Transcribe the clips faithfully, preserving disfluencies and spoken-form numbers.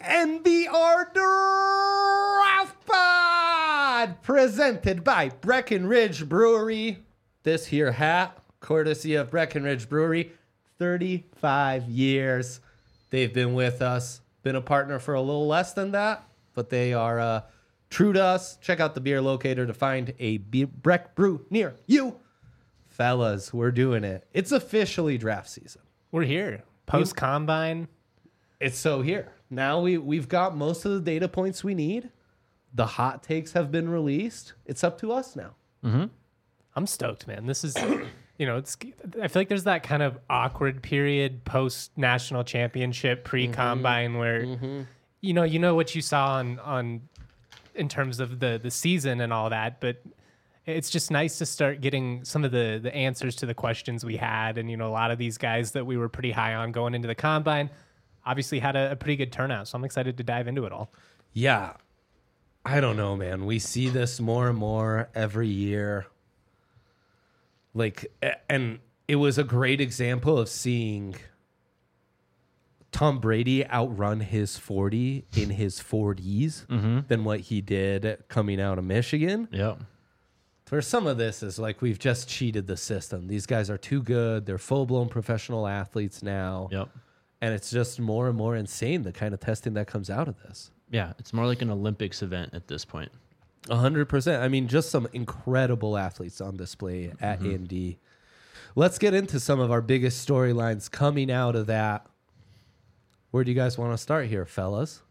N B R Draft Pod, presented by Breckenridge Brewery. This here hat, courtesy of Breckenridge Brewery, thirty-five years. They've been with us, been a partner for a little less than that, but they are uh, true to us. Check out the beer locator to find a be- Breck brew near you. Fellas, we're doing it. It's officially draft season. We're here. Post-combine. It's so here. Now we, we've got most of the data points we need. The hot takes have been released. It's up to us now. Mm-hmm. I'm stoked, man. This is, you know, it's. I feel like there's that kind of awkward period post-national championship, pre-combine, mm-hmm. where, mm-hmm. you know, you know what you saw on, on in terms of the, the season and all that, but it's just nice to start getting some of the, the answers to the questions we had. And, you know, a lot of these guys that we were pretty high on going into the combine obviously had a, a pretty good turnout. So I'm excited to dive into it all. Yeah. I don't know, man. We see this more and more every year. Like, and it was a great example of seeing Tom Brady outrun his forty in his forties mm-hmm. than what he did coming out of Michigan. Yep. For some of this is like we've just cheated the system. These guys are too good. They're full-blown professional athletes now. Yep. And it's just more and more insane, the kind of testing that comes out of this. Yeah, it's more like an Olympics event at this point. A hundred percent. I mean, just some incredible athletes on display at mm-hmm. Indy. Let's get into some of our biggest storylines coming out of that. Where do you guys want to start here, fellas?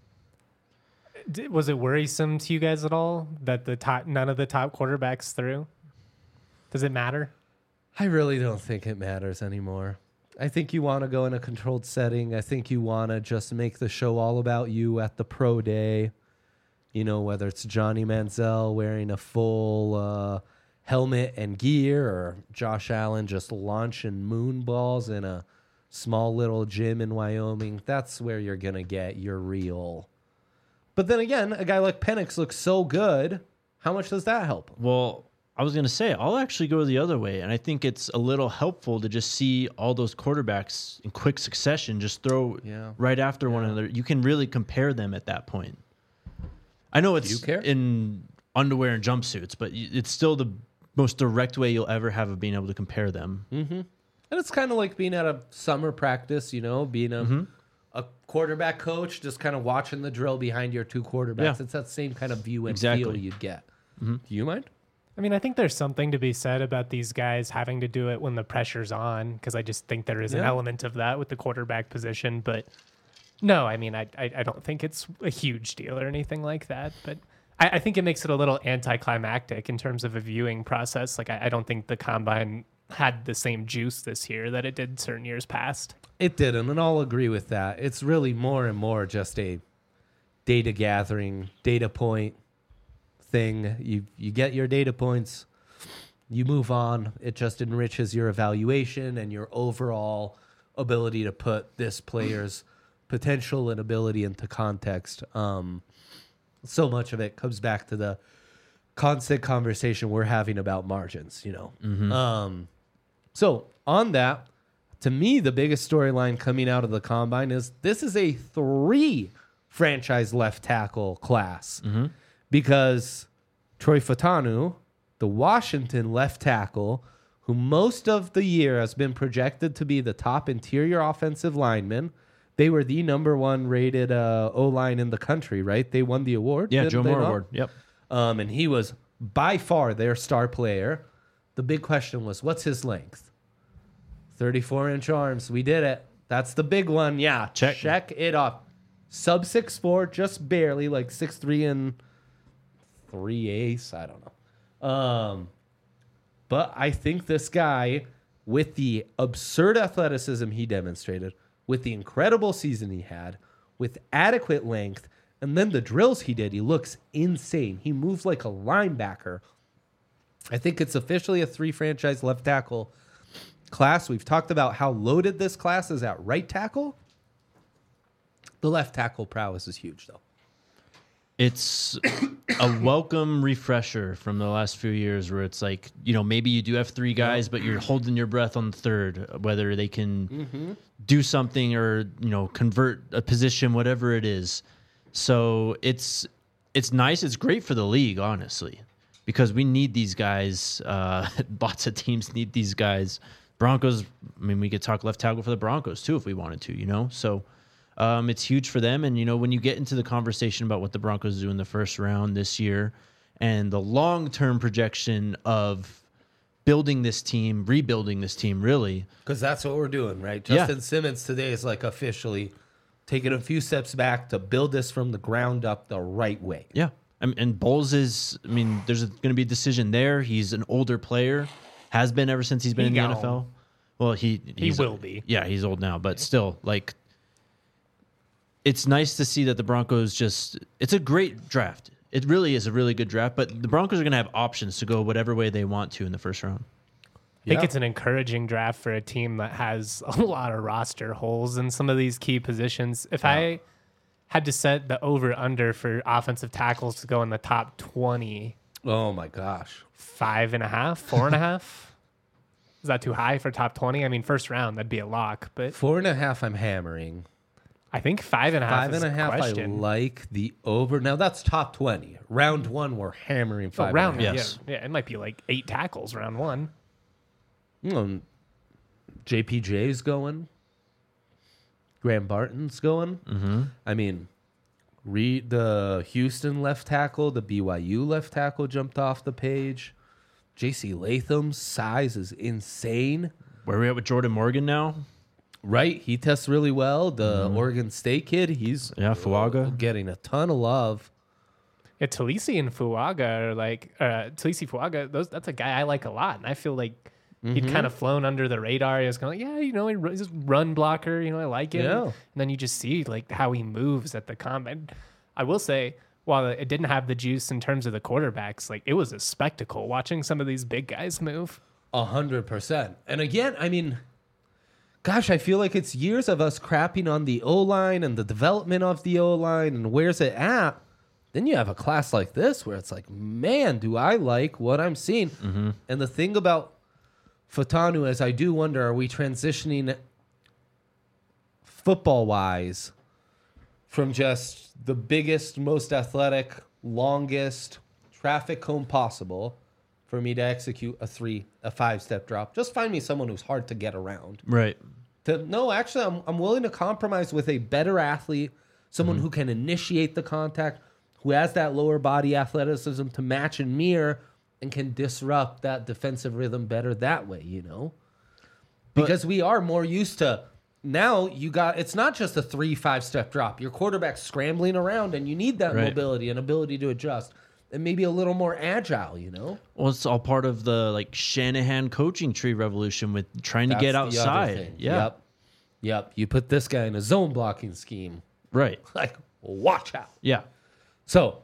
Was it worrisome to you guys at all that the top, none of the top quarterbacks threw? Does it matter? I really don't think it matters anymore. I think you want to go in a controlled setting. I think you want to just make the show all about you at the pro day. You know, whether it's Johnny Manziel wearing a full uh, helmet and gear or Josh Allen just launching moon balls in a small little gym in Wyoming. That's where you're going to get your real. But then again, a guy like Penix looks so good. How much does that help him? Well, I was going to say, I'll actually go the other way. And I think it's a little helpful to just see all those quarterbacks in quick succession, just throw yeah. right after yeah. one another. You can really compare them at that point. I know it's in underwear and jumpsuits, but it's still the most direct way you'll ever have of being able to compare them. Mm-hmm. And it's kind of like being at a summer practice, you know, being a, mm-hmm. a quarterback coach, just kind of watching the drill behind your two quarterbacks. Yeah. It's that same kind of view and exactly. feel you'd get. Mm-hmm. Do you mind? I mean, I think there's something to be said about these guys having to do it when the pressure's on, because I just think there is yeah. an element of that with the quarterback position. But no, I mean, I I, I don't think it's a huge deal or anything like that. But I, I think it makes it a little anticlimactic in terms of a viewing process. Like, I, I don't think the combine had the same juice this year that it did certain years past. It didn't, and I'll agree with that. It's really more and more just a data gathering, data point thing. You you get your data points, you move on. It just enriches your evaluation and your overall ability to put this player's potential and ability into context. Um, so much of it comes back to the constant conversation we're having about margins, you know. Mm-hmm. Um, so on that, to me, the biggest storyline coming out of the combine is this is a three franchise left tackle class. Mm-hmm. Because Troy Fautanu, the Washington left tackle, who most of the year has been projected to be the top interior offensive lineman, they were the number one rated uh, O-line in the country, right? They won the award. Yeah, Joe Moore Award. Yep. Um, and he was by far their star player. The big question was, what's his length? thirty-four inch arms. We did it. That's the big one. Yeah, check, check it off. Sub six four, just barely, like six three and three eighths. I don't know. Um, but I think this guy, with the absurd athleticism he demonstrated, with the incredible season he had, with adequate length, and then the drills he did, he looks insane. He moves like a linebacker. I think it's officially a three franchise left tackle class. We've talked about how loaded this class is at right tackle. The left tackle prowess is huge, though. It's a welcome refresher from the last few years where it's like, you know, maybe you do have three guys, but you're holding your breath on the third, whether they can mm-hmm. do something or, you know, convert a position, whatever it is. So it's it's nice. It's great for the league, honestly, because we need these guys. Uh, lots of teams need these guys. Broncos, I mean, we could talk left tackle for the Broncos too if we wanted to, you know? So um, it's huge for them. And, you know, when you get into the conversation about what the Broncos do in the first round this year and the long-term projection of building this team, rebuilding this team, really. Because that's what we're doing, right? Justin yeah. Simmons today is like officially taking a few steps back to build this from the ground up the right way. Yeah. I mean, and Bowles is, I mean, there's going to be a decision there. He's an older player. Has been ever since he's been he in the N F L. Well, he he will be. Yeah, he's old now, but still, like, it's nice to see that the Broncos just. It's a great draft. It really is a really good draft. But the Broncos are going to have options to go whatever way they want to in the first round. I think yeah. it's an encouraging draft for a team that has a lot of roster holes in some of these key positions. If yeah. I had to set the over under for offensive tackles to go in the top twenty. Oh my gosh. Five and a half, four and a half. Is that too high for top twenty? I mean, first round, that'd be a lock, but four and a half, I'm hammering. I think five and a half. Five and a half, I like the over. Now that's top twenty. Round one, we're hammering five. Oh, round, and a half. yes. Yeah, yeah, it might be like eight tackles round one. Mm, J P J's going. Graham Barton's going. Mm-hmm. I mean, read the Houston left tackle, the B Y U left tackle jumped off the page. J C Latham's size is insane. Where are we at with Jordan Morgan now? Right, he tests really well. The mm-hmm. Oregon State kid, he's yeah, Fuaga getting a ton of love. Yeah, Talisi and Fuaga are like uh, Talisi Fuaga. Those that's a guy I like a lot, and I feel like mm-hmm. he'd kind of flown under the radar. He was kind of like, yeah, you know, he's a run blocker. You know, I like him. Yeah. And then you just see like how he moves at the combine. I will say, while it didn't have the juice in terms of the quarterbacks, like it was a spectacle watching some of these big guys move. A hundred percent. And again, I mean, gosh, I feel like it's years of us crapping on the O-line and the development of the O-line and where's it at. Then you have a class like this where it's like, man, do I like what I'm seeing. Mm-hmm. And the thing about Fatanu is I do wonder, are we transitioning football-wise from just the biggest, most athletic, longest traffic cone possible for me to execute a three, a five-step drop? Just find me someone who's hard to get around. Right. To, no, actually, I'm I'm willing to compromise with a better athlete, someone mm-hmm. who can initiate the contact, who has that lower body athleticism to match and mirror, and can disrupt that defensive rhythm better that way, you know? Because but, we are more used to... Now you got, it's not just a three, five step drop. Your quarterback's scrambling around and you need that right. mobility and ability to adjust and maybe a little more agile, you know? Well, it's all part of the like Shanahan coaching tree revolution with trying That's to get outside. Yeah. Yep. Yep. You put this guy in a zone blocking scheme. Right. Like, watch out. Yeah. So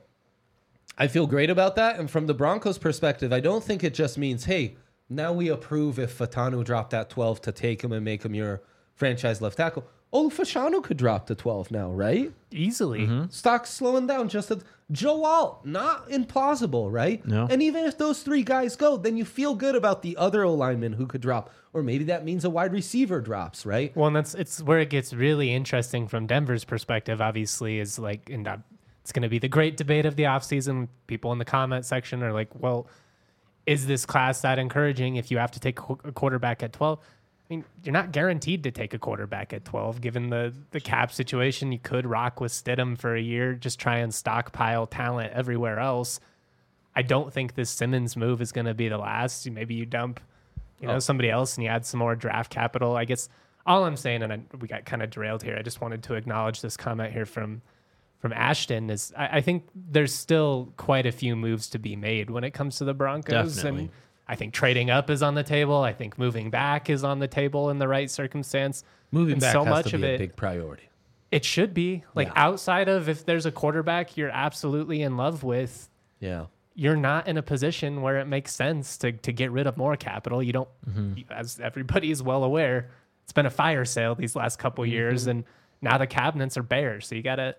I feel great about that. And from the Broncos perspective, I don't think it just means, hey, now we approve if Fatanu dropped at twelve to take him and make him your franchise left tackle. Oh, Fashanu could drop to twelve now, right? Easily. Mm-hmm. Stock's slowing down just a... Joe Alt, not implausible, right? No. And even if those three guys go, then you feel good about the other O-lineman who could drop. Or maybe that means a wide receiver drops, right? Well, and that's it's where it gets really interesting from Denver's perspective, obviously, is like, and it's going to be the great debate of the offseason. People in the comment section are like, well, is this class that encouraging if you have to take a quarterback at twelve? I mean, you're not guaranteed to take a quarterback at twelve, given the, the cap situation. You could rock with Stidham for a year, just try and stockpile talent everywhere else. I don't think this Simmons move is going to be the last. Maybe you dump, you know, oh. somebody else and you add some more draft capital. I guess all I'm saying, and I, we got kind of derailed here, I just wanted to acknowledge this comment here from from Ashton, is I, I think there's still quite a few moves to be made when it comes to the Broncos. Definitely. And I think trading up is on the table. I think moving back is on the table in the right circumstance. Moving and back so has much to of be it, a big priority. It should be. Like Yeah. outside of if there's a quarterback you're absolutely in love with, Yeah. you're not in a position where it makes sense to to get rid of more capital. You don't, Mm-hmm. as everybody is well aware, it's been a fire sale these last couple Mm-hmm. years, and now the cabinets are bare. So you gotta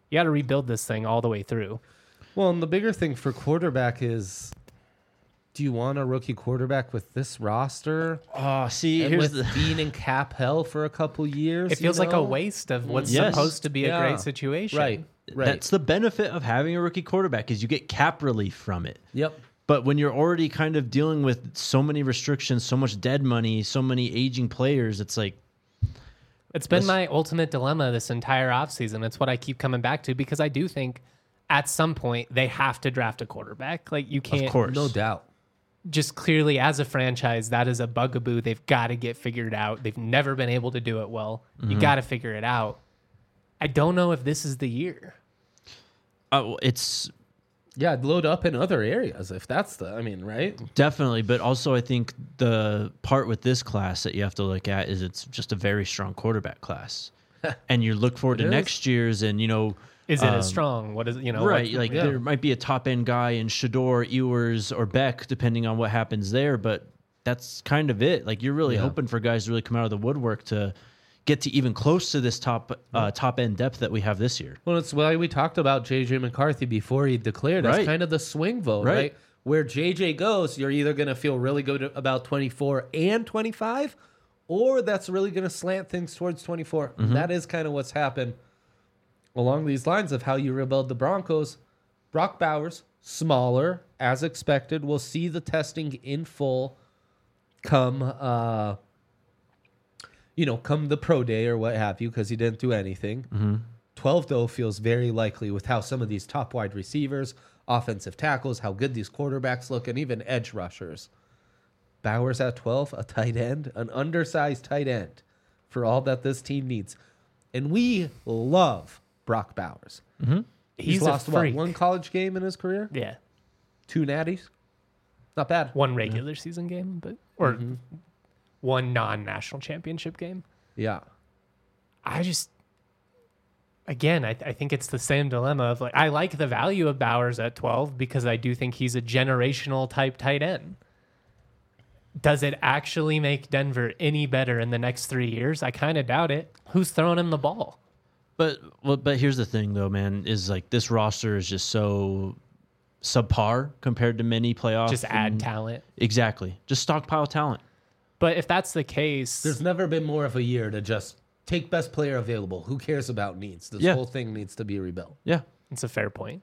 You got to rebuild this thing all the way through. Well, and the bigger thing for quarterback is, do you want a rookie quarterback with this roster? Oh, see, And here's with the being in cap hell for a couple years? It feels you like a know? waste of what's Yes. supposed to be a Yeah. great situation. Right. Right. that's the benefit of having a rookie quarterback is you get cap relief from it. Yep. But when you're already kind of dealing with so many restrictions, so much dead money, so many aging players, it's like It's been Let's- my ultimate dilemma this entire offseason. It's what I keep coming back to because I do think at some point they have to draft a quarterback. Like you can't of course. No doubt. just clearly as a franchise, that is a bugaboo they've got to get figured out. They've never been able to do it well. Mm-hmm. You got to figure it out. I don't know if this is the year. Uh, well, it's Yeah, I'd load up in other areas if that's the, I mean, right? definitely, but also I think the part with this class that you have to look at is it's just a very strong quarterback class. And you look forward It to is. next year's and, you know, Is it um, as strong? What is you know? right, what- like yeah. there might be a top end guy in Shador, Ewers, or Beck, depending on what happens there, but that's kind of it. Like you're really Yeah. hoping for guys to really come out of the woodwork to get to even close to this top uh, top end depth that we have this year. Well, it's why we talked about J J McCarthy before he declared as Right. kind of the swing vote, Right. right? Where J J goes, you're either going to feel really good about twenty-four and twenty-five, or that's really going to slant things towards twenty-four. That is kind of what's happened along these lines of how you rebuild the Broncos. Brock Bowers, smaller, as expected. We'll see the testing in full come, uh, you know, come the pro day or what have you, because he didn't do anything. twelve, though, feels very likely with how some of these top wide receivers, offensive tackles, how good these quarterbacks look, and even edge rushers. Bowers at twelve, a tight end, an undersized tight end for all that this team needs. And we love Brock Bowers. He's, He's a lost, what, freak. one college game in his career? Yeah, Two natties? Not bad. one regular season game, but or one non-national championship game. Yeah. I just, again, I, I think it's the same dilemma of like, I like the value of Bowers at twelve because I do think he's a generational type tight end. Does it actually make Denver any better in the next three years? I kind of doubt it. Who's throwing him the ball? But well, but here's the thing, though, man, is like this roster is just so subpar compared to many playoff. Just add and- talent. Exactly. Just stockpile talent. But if that's the case, There's never been more of a year to just take best player available. Who cares about needs? This Yeah. whole thing needs to be rebuilt. Yeah. it's a fair point.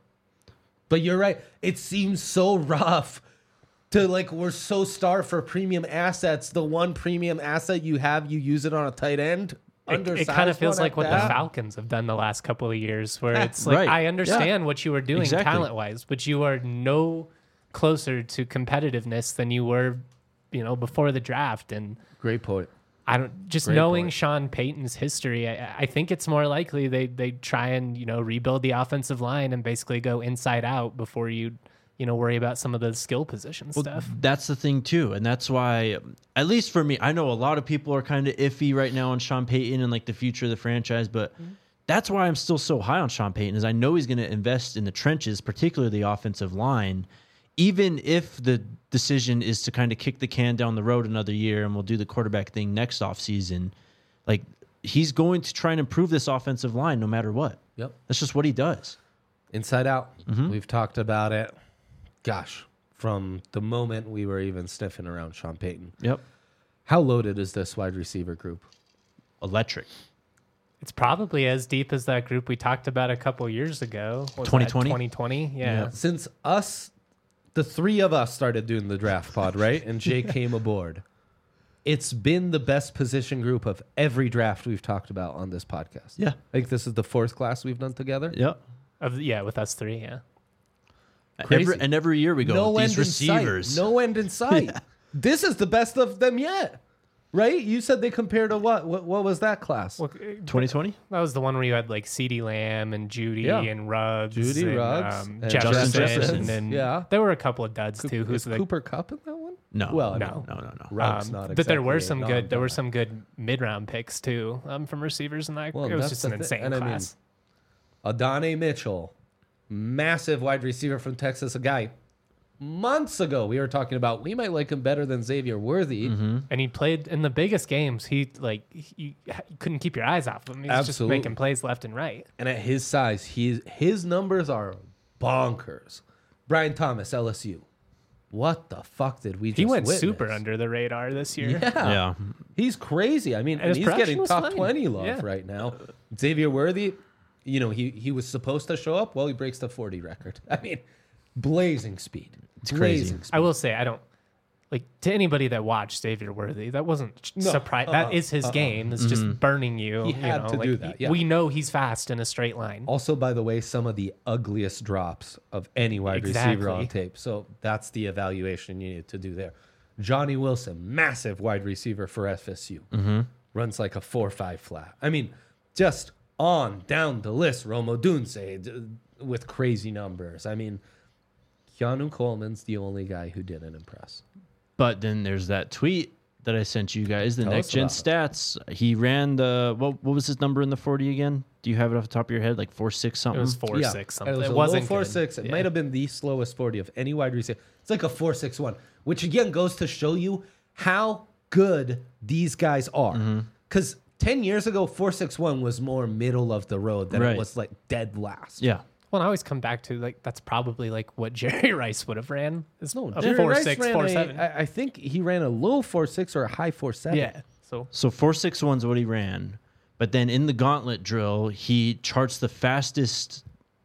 But you're right. It seems so rough to like, we're so starved for premium assets. The one premium asset you have, you use it on a tight end. It, it Undersized kind of feels one like at what the that. Falcons have done the last couple of years, where it's like, Right. I understand Yeah. what you were doing Exactly. talent wise, but you are no closer to competitiveness than you were, you know, before the draft. And Great point. I don't just Great knowing point. Sean Payton's history. I, I think it's more likely they they try and you know rebuild the offensive line and basically go inside out before you you know worry about some of the skill position stuff. That's the thing too, and that's why, at least for me, I know a lot of people are kind of iffy right now on Sean Payton and like the future of the franchise, but that's why I'm still so high on Sean Payton. Is I know he's going to invest in the trenches, particularly the offensive line, even if the decision is to kind of kick the can down the road another year and we'll do the quarterback thing next offseason. Like he's going to try and improve this offensive line no matter what. Yep. That's just what he does. Inside out. We've talked about it. Gosh, from the moment we were even sniffing around Sean Payton. Yep. How loaded is this wide receiver group? Electric. It's probably as deep as that group we talked about a couple years ago. Was that twenty twenty? twenty twenty Yeah. Since us, the three of us started doing the draft pod, right? And Jay came aboard. It's been the best position group of every draft we've talked about on this podcast. Yeah. I think this is the fourth class we've done together. Yep. Of yeah, with us three, yeah. Crazy. Every, and every year we go, No these end receivers. in sight. No end in sight. This is the best of them yet, right? You said they compared to what? What, what was that class? Well, twenty twenty? that was the one where you had like CeeDee Lamb and Judy Yeah. and Ruggs, Judy, and, Ruggs, um, and Jefferson, Justin Jefferson. and then Yeah. there were a couple of duds too. Is Who's the Cooper Cup in that one? No. Well, No. No, no, no. Ruggs Um, not but there were exactly some a good. There were non-guy. some good mid-round picks too um, from receivers, and that Well, it was that's just the an thi- insane and I mean, class. Adonai Mitchell, massive wide receiver from Texas, a guy months ago we were talking about we might like him better than Xavier Worthy. Mm-hmm. And he played in the biggest games. He like you, you couldn't keep your eyes off him. He's just Absolutely. making plays left and right. And at his size, he's, his numbers are bonkers. Brian Thomas, L S U. What the fuck did we just He went witness? super under the radar this year. Yeah. Yeah. He's crazy. I mean, And and his he's production getting was top fine. twenty love Yeah. right now. Xavier Worthy, you know, he, he was supposed to show up. Well, he breaks the forty record. I mean, blazing speed. It's crazy. Blazing speed. I will say I don't like to anybody that watched Xavier Worthy. That wasn't No, surprise. uh-uh, That is his uh-uh. game. It's just burning you. He you had know, to like, do that, yeah. We know he's fast in a straight line. Also, by the way, some of the ugliest drops of any wide receiver on Exactly. tape. So that's the evaluation you need to do there. Johnny Wilson, massive wide receiver for F S U. Mm-hmm. Runs like a four five flat. I mean, just on down the list. Romo Dunze d- with crazy numbers. I mean, Keanu Coleman's the only guy who didn't impress. But then there's that tweet that I sent you guys, the Tell next us gen about stats. He ran the what what was his number in the forty again? Do you have it off the top of your head? Like four six It something? was four Yeah, six something. It was It a wasn't low four good. six. It Yeah. might have been the slowest forty of any wide receiver. It's like a four six one, which again goes to show you how good these guys are. Because ten years ago, four six one was more middle of the road than Right. it was like dead last. Yeah. Well, I always come back to like that's probably like what Jerry Rice would have ran. Is No, a Jerry four Rice six, ran four a- seven. I, I think he ran a low four six or a high four seven. Yeah. So So four six one's what he ran. But then in the gauntlet drill, he charts the fastest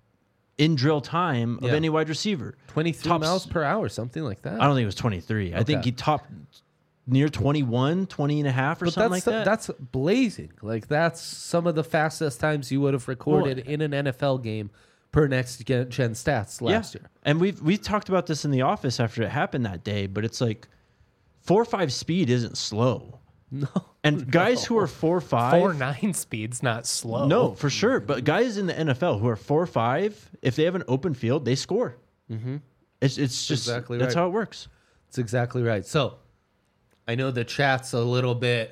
in drill time of Yeah. any wide receiver. twenty-three Tops- miles per hour, something like that. I don't think it was twenty-three. I think Okay. he topped near twenty-one, twenty and a half or But something that's like that. that's blazing. Like that's some of the fastest times you would have recorded in an N F L game per next gen, gen stats last yeah. year. And we've we talked about this in the office after it happened that day, but it's like four five speed isn't slow. No. And guys who are four five four nine speed's not slow. No, for sure. But guys in the N F L who are four five, if they have an open field, they score. Mm-hmm. It's it's just exactly that's right. how it works. That's exactly right. So I know the chat's a little bit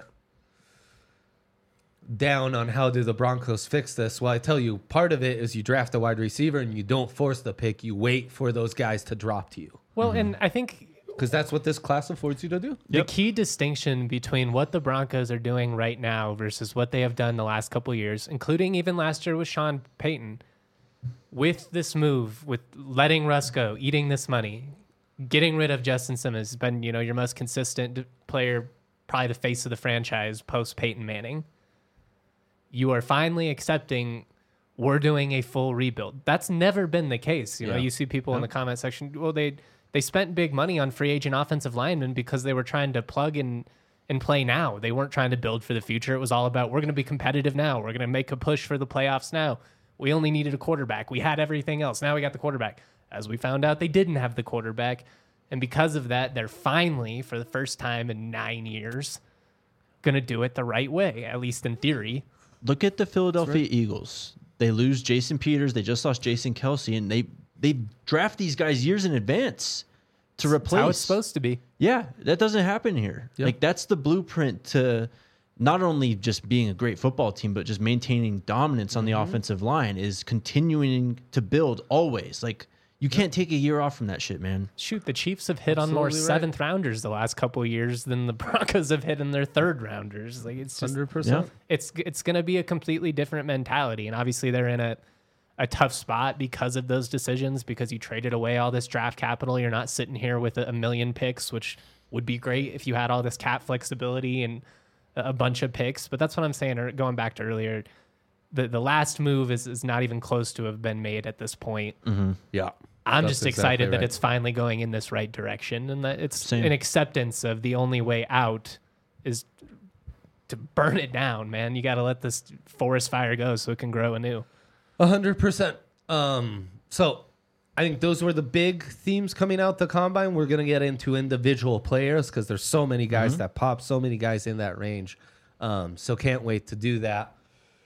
down on how do the Broncos fix this. Well, I tell you, part of it is you draft a wide receiver and you don't force the pick. You wait for those guys to drop to you. Well, Mm-hmm. and I think Because that's what this class affords you to do. the Yep. key distinction between what the Broncos are doing right now versus what they have done the last couple of years, including even last year with Sean Payton, with this move, with letting Russ go, eating this money, getting rid of Justin Simmons, has been, you know, your most consistent player, probably the face of the franchise post Peyton Manning. You are finally accepting we're doing a full rebuild. That's never been the case. You know, Yeah. you see people in the comment section, well, they they spent big money on free agent offensive linemen because they were trying to plug in and play now. They weren't trying to build for the future. It was all about we're going to be competitive now. We're going to make a push for the playoffs now. We only needed a quarterback. We had everything else. Now we got the quarterback. As we found out, they didn't have the quarterback. And because of that, they're finally, for the first time in nine years, going to do it the right way, at least in theory. Look at the Philadelphia Eagles. They lose Jason Peters. They just lost Jason Kelsey, and they they draft these guys years in advance to That's replace. how it's supposed to be. Yeah, that doesn't happen here. Yeah. Like that's the blueprint to not only just being a great football team, but just maintaining dominance on the offensive line is continuing to build always. Like you can't take a year off from that shit, man. Shoot, the Chiefs have hit on more Absolutely right. seventh rounders the last couple of years than the Broncos have hit in their third rounders. Like it's just one hundred percent. it's it's going to be a completely different mentality, and obviously they're in a a tough spot because of those decisions. Because you traded away all this draft capital, you're not sitting here with a, a million picks, which would be great if you had all this cap flexibility and a, a bunch of picks. But that's what I'm saying. Or going back to earlier, the the last move is is not even close to have been made at this point. Yeah. I'm That's just exactly excited that right. it's finally going in this right direction and that it's Same. an acceptance of the only way out is to burn it down, man. You got to let this forest fire go so it can grow anew. A hundred percent. Um, so I think those were the big themes coming out the combine. We're gonna get into individual players because there's so many guys that pop, so many guys in that range. Um, so can't wait to do that.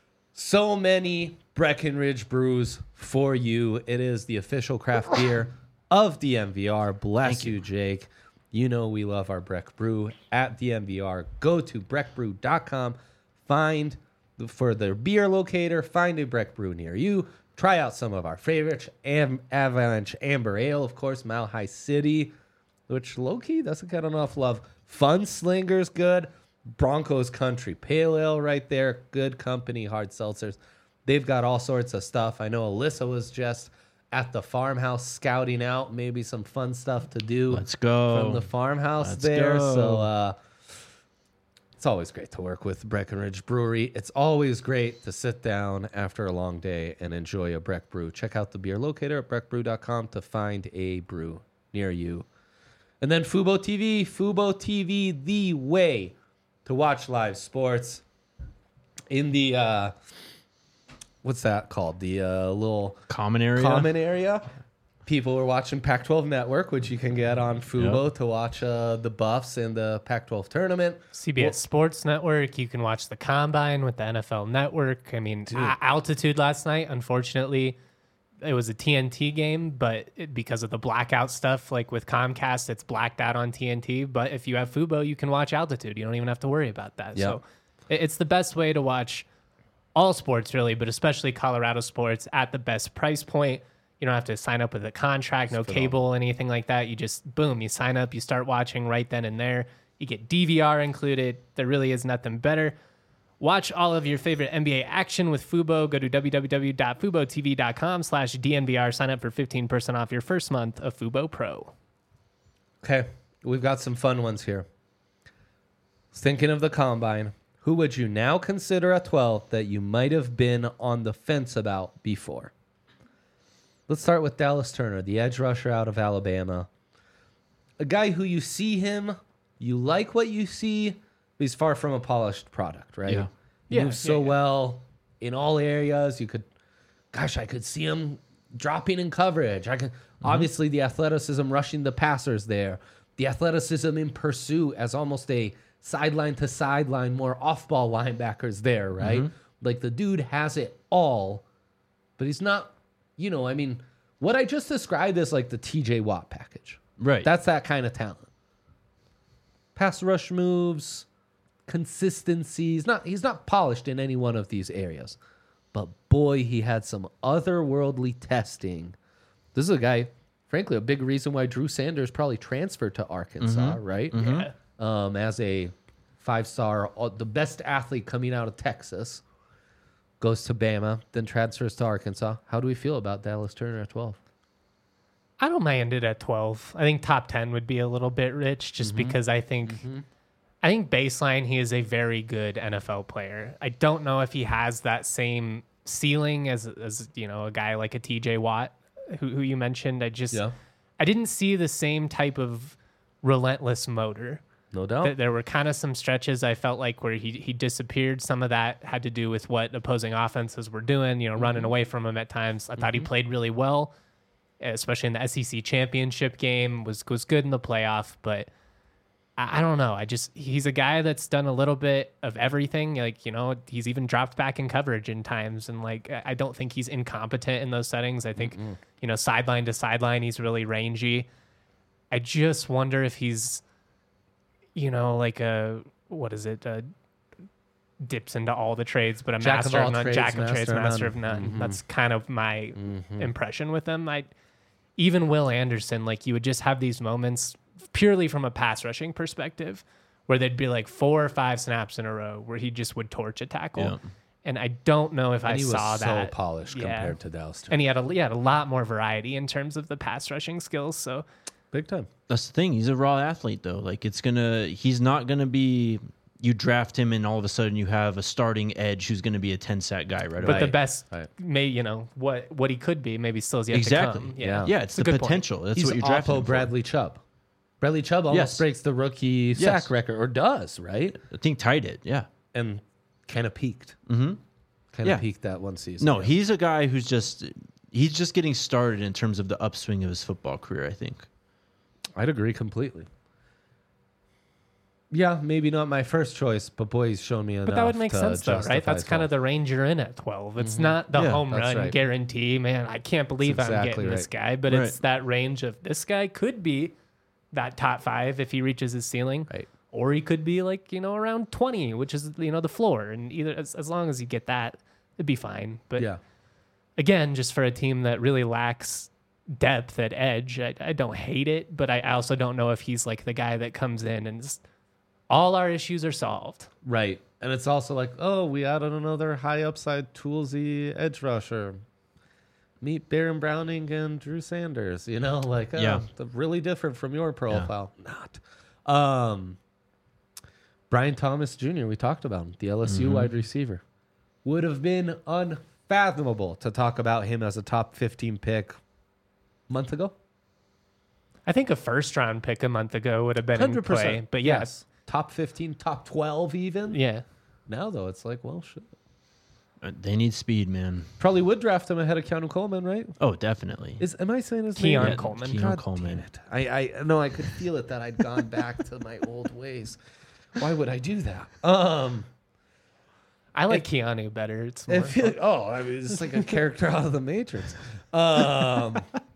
So many Breckenridge brews for you. It is the official craft beer of the M V R. Bless you, Jake. You know we love our Breck Brew at the M V R. Go to breck brew dot com. Find for their beer locator, find a Breck Brew near you. Try out some of our favorites. Am- Avalanche Amber Ale, of course, Mile High City, which low-key doesn't get enough love. Fun Slinger's good. Broncos Country Pale Ale right there. Good company, hard seltzers. They've got all sorts of stuff. I know Alyssa was just at the farmhouse scouting out maybe some fun stuff to do. Let's go. From the farmhouse Let's there. go. So uh, it's always great to work with Breckenridge Brewery. It's always great to sit down after a long day and enjoy a Breck Brew. Check out the beer locator at breck brew dot com to find a brew near you. And then Fubo T V. Fubo T V, the way to watch live sports. In the, uh, what's that called? The uh, little Common area. common area. People were watching Pac twelve Network, which you can get on Fubo Yep. to watch uh, the Buffs in the Pac twelve tournament. C B S Sports Network. You can watch the Combine with the N F L Network. I mean, a- altitude last night, unfortunately, it was a T N T game, but it, because of the blackout stuff, like with Comcast, it's blacked out on T N T. But if you have Fubo, you can watch altitude. You don't even have to worry about that. Yep. So it, it's the best way to watch all sports, really, but especially Colorado sports at the best price point. You don't have to sign up with a contract, no cable, anything like that. You just, boom, you sign up, you start watching right then and there. You get D V R included. There really is nothing better. Watch all of your favorite N B A action with Fubo. Go to w w w dot fubo t v dot com slash D N V R. Sign up for fifteen percent off your first month of Fubo Pro. Okay, we've got some fun ones here. Thinking of the Combine, who would you now consider a twelve that you might have been on the fence about before? Let's start with Dallas Turner, the edge rusher out of Alabama. A guy who you see him, you like what you see, but he's far from a polished product, right? Yeah. He Yeah, moves so yeah, yeah. well in all areas. You could, gosh, I could see him dropping in coverage. I can obviously the athleticism rushing the passers there, the athleticism in pursuit as almost a sideline to sideline, more off-ball linebackers there, right? Like the dude has it all, but he's not. You know, I mean, what I just described is like the T J Watt package. Right. That's that kind of talent. Pass rush moves, consistency. He's not, he's not polished in any one of these areas. But boy, he had some otherworldly testing. This is a guy, frankly, a big reason why Drew Sanders probably transferred to Arkansas, right? Yeah. Um, as a five-star, uh, the best athlete coming out of Texas. Goes to Bama, then transfers to Arkansas. How do we feel about Dallas Turner at twelve? I don't mind it at twelve. I think top ten would be a little bit rich just Mm-hmm. because I think I think baseline he is a very good N F L player. I don't know if he has that same ceiling as as you know, a guy like a T J Watt who who you mentioned. I just Yeah. I didn't see the same type of relentless motor. No doubt. Th- There were kind of some stretches I felt like where he he disappeared. Some of that had to do with what opposing offenses were doing, you know, running away from him at times. I thought he played really well, especially in the S E C championship game. was was good in the playoff, but I, I don't know. I just he's a guy that's done a little bit of everything. Like you know, he's even dropped back in coverage in times, and like I I don't think he's incompetent in those settings. I think you know, sideline to sideline, he's really rangy. I just wonder if he's you know, like a, what is it? Uh, dips into all the trades, but a Jack of master all of none, trades, jack of master trades, of master none. of none. Mhm. That's kind of my impression with him. I, even Will Anderson, like you would just have these moments purely from a pass rushing perspective where there'd be like four or five snaps in a row where he just would torch a tackle. Yeah. And I don't know if and I he saw was so that. polished Yeah. compared to Dallas Turner. And he had a, he had a lot more variety in terms of the pass rushing skills. So Big time. That's the thing. He's a raw athlete, though. Like it's gonna. He's not gonna be. You draft him, and all of a sudden you have a starting edge who's gonna be a ten sack guy right But away. the best, Right. may you know what what he could be, maybe still is yet exactly. to come. Yeah. yeah. It's a the good point. potential. That's He's what you're drafting Oppo him for. Bradley Chubb. Bradley Chubb almost Yes. breaks the rookie Yes. sack record, or does, right? I think tied it. Yeah. And kind of peaked. Mm-hmm. Kind of Yeah. peaked that one season. No, yeah. he's a guy who's just. He's just getting started in terms of the upswing of his football career. I think. I'd agree completely. Yeah, maybe not my first choice, but boy, he's shown me enough. But that would make to sense, though, right? justify That's kind of twelve. the range you're in at twelve. It's not the Yeah, home that's run right. guarantee, man. I can't believe That's I'm exactly getting this right. guy, but Right. it's that range of this guy could be that top five if he reaches his ceiling. Right. or he could be like, you know, around twenty, which is, you know, the floor. And either as, as long as you get that, it'd be fine. But Yeah. again, just for a team that really lacks depth at edge, I, I don't hate it, but I also don't know if he's like the guy that comes in and just, all our issues are solved. Right. And it's also like, oh, we added another high upside toolsy edge rusher. Meet Baron Browning and Drew Sanders, you know, like, oh, Yeah. they're really different from your profile. Not. Um, Brian Thomas Junior, we talked about him, the L S U Mm-hmm. wide receiver. Would have been unfathomable to talk about him as a top fifteen pick a month ago. I think a first round pick a month ago would have been one hundred in play, percent. but yeah, Yes. Top fifteen, top twelve even. yeah. Now, though, it's like, well, shit. Uh, They need speed, man. Probably would draft him ahead of Keanu Coleman, right? Oh, definitely. Is am I saying his Keon name? Yeah, Coleman. Keon God Coleman. damn it. I, I no, I could feel it that I'd gone back to my old ways. Why would I do that? Um, I like Keanu better. It's I more feel like, oh, I mean, it's like a character out of the Matrix. Um,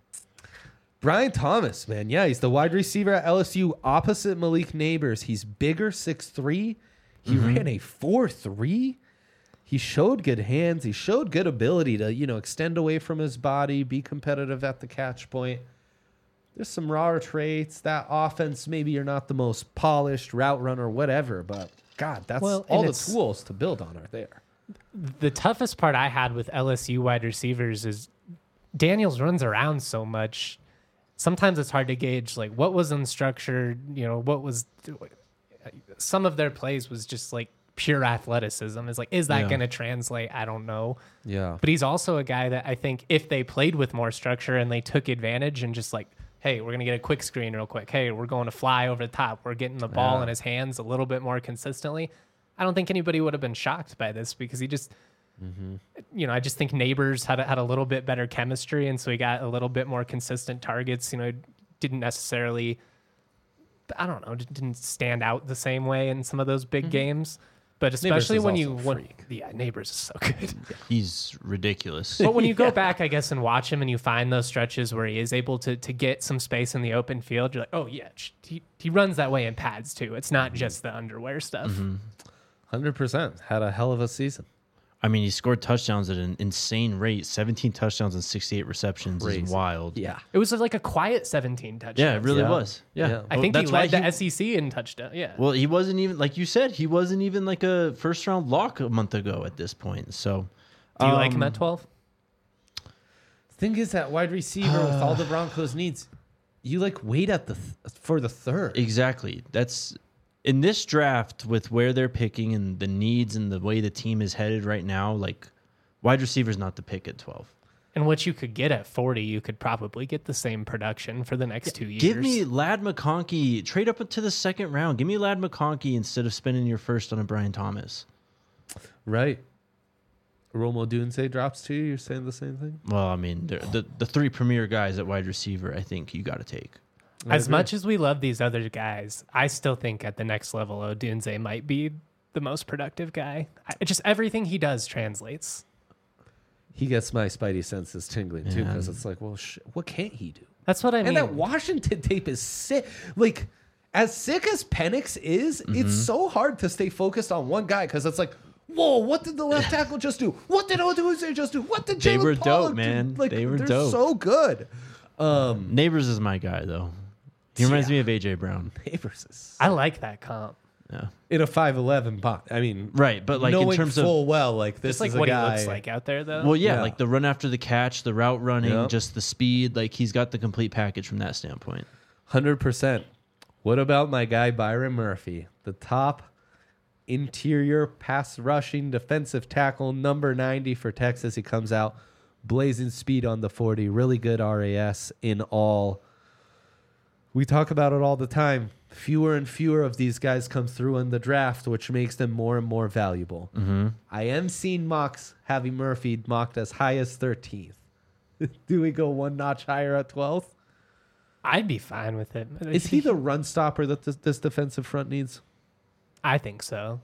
Brian Thomas, man, yeah, he's the wide receiver at L S U opposite Malik Neighbors. He's bigger, six three. He ran a four three. He showed good hands. He showed good ability to, you know, extend away from his body, be competitive at the catch point. There's some raw traits. That offense, maybe you're not the most polished route runner, whatever, but God, that's Well, all and the it's- tools to build on are there. the toughest part I had with L S U wide receivers is Daniels runs around so much. Sometimes it's hard to gauge like what was unstructured, you know, what was some of their plays was just like pure athleticism. It's like, is that Yeah. going to translate? I don't know. Yeah. But he's also a guy that I think if they played with more structure and they took advantage and just like, hey, we're going to get a quick screen real quick. Hey, we're going to fly over the top. We're getting the ball Yeah. in his hands a little bit more consistently. I don't think anybody would have been shocked by this because he just, you know, I just think Neighbors had a, had a little bit better chemistry. And so he got a little bit more consistent targets, you know, didn't necessarily, I don't know, didn't stand out the same way in some of those big games. But especially is when also you, a when, freak. yeah, Neighbors is so good. He's ridiculous. But when you go back, I guess, and watch him and you find those stretches where he is able to to get some space in the open field, you're like, oh, yeah, sh- he, he runs that way in pads, too. It's not just the underwear stuff. one hundred percent. Had a hell of a season. I mean, he scored touchdowns at an insane rate. seventeen touchdowns and sixty-eight receptions Crazy. is wild. Yeah. It was like a quiet seventeen touchdowns. Yeah, it really Yeah. was. Yeah. Yeah. I Well, think he that's why led the S E C in touchdown. Yeah. Well, he wasn't even, like you said, he wasn't even like a first round lock a month ago at this point. So, Do you like him um, at twelve? Thing is that wide receiver with all the Broncos needs, you like wait at the th- for the third. Exactly. That's in this draft with where they're picking and the needs and the way the team is headed right now. Like, wide receiver's not the pick at twelve. And what you could get at forty, you could probably get the same production for the next two years. Give me Lad McConkey. Trade up to the second round. Give me Lad McConkey instead of spending your first on a Brian Thomas. Right. Romo Dunze drops to you. You're saying the same thing? Well, I mean, the the, the three premier guys at wide receiver, I think you got to take. As much as we love these other guys, I still think at the next level, Odunze might be the most productive guy. I, just everything he does translates. He gets my spidey senses tingling too, Yeah. because it's like, well, sh- what can't he do? That's what I mean. And that Washington tape is sick. Like, as sick as Penix is, it's so hard to stay focused on one guy because it's like, whoa, what did the left tackle just do? What did Odunze just do? What did They Jalen were dope, Pollard do? man. Like, They were they're dope. so good. Um, Neighbors is my guy though. He reminds Yeah. me of A J Brown. Neighbors is I like that comp. Yeah. in a five eleven bot. I mean, Right, but like in knowing terms of full well, like this Just like is a what guy, he looks like out there, though. well, yeah, Yeah. like the run after the catch, the route running, Yep. just the speed. Like he's got the complete package from that standpoint. one hundred percent. What about my guy Byron Murphy, the top interior pass rushing defensive tackle, number ninety for Texas? He comes out blazing speed on the forty, really good R A S in all. We talk about it all the time. Fewer and fewer of these guys come through in the draft, which makes them more and more valuable. Mm-hmm. I am seeing mocks having Murphy mocked as high as thirteenth. Do we go one notch higher at twelfth? I'd be fine with it. Is he the run stopper that this, this defensive front needs? I think so.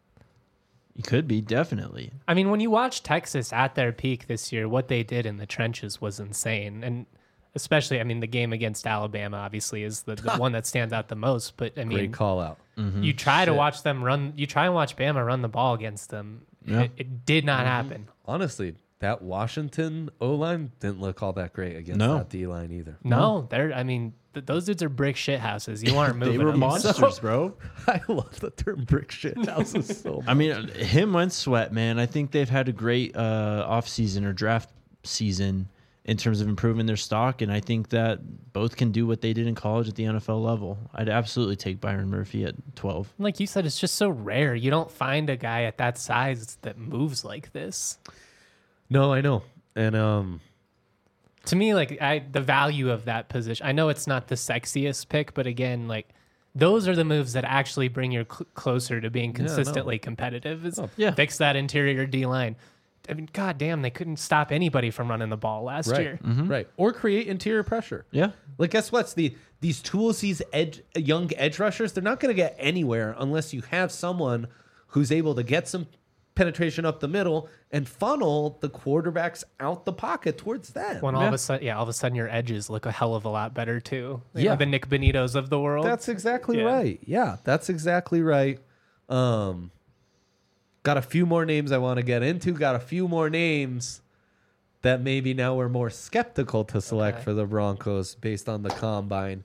He could be definitely. I mean, when you watch Texas at their peak this year, what they did in the trenches was insane. And Especially, I mean, the game against Alabama obviously is the, the one that stands out the most. But I mean, Great call out. Mm-hmm. you try Shit. to watch them run. You try and watch Bama run the ball against them. Yeah. It, it did not Mm-hmm. happen. Honestly, that Washington O-line didn't look all that great against No. that D-line either. No, they're. I mean, th- those dudes are brick shit houses. You aren't moving. They were them. monsters, bro. I love the term brick shit houses so much. I mean, him and Sweat, man. I think they've had a great uh, off season or draft season in terms of improving their stock, and I think that both can do what they did in college at the N F L level. I'd absolutely take Byron Murphy at twelve. Like you said, it's just so rare. You don't find a guy at that size that moves like this. No, I know. And um, To me, like I, the value of that position. I know it's not the sexiest pick, but again, like those are the moves that actually bring you cl- closer to being no. consistently competitive. Is Oh, yeah. fix that interior D line. I mean, god damn, they couldn't stop anybody from running the ball last right, year. right, or create interior pressure. Yeah. Like, guess what's the these tools, these edge young edge rushers, they're not going to get anywhere unless you have someone who's able to get some penetration up the middle and funnel the quarterbacks out the pocket towards them. When all Yeah. of a sudden, yeah, all of a sudden your edges look a hell of a lot better too. You Yeah. know, the Nick Benitos of the world. That's exactly Yeah. right. Yeah, that's exactly right. Um, got a few more names I want to get into. Got a few more names that maybe now we're more skeptical to select Okay. for the Broncos based on the combine.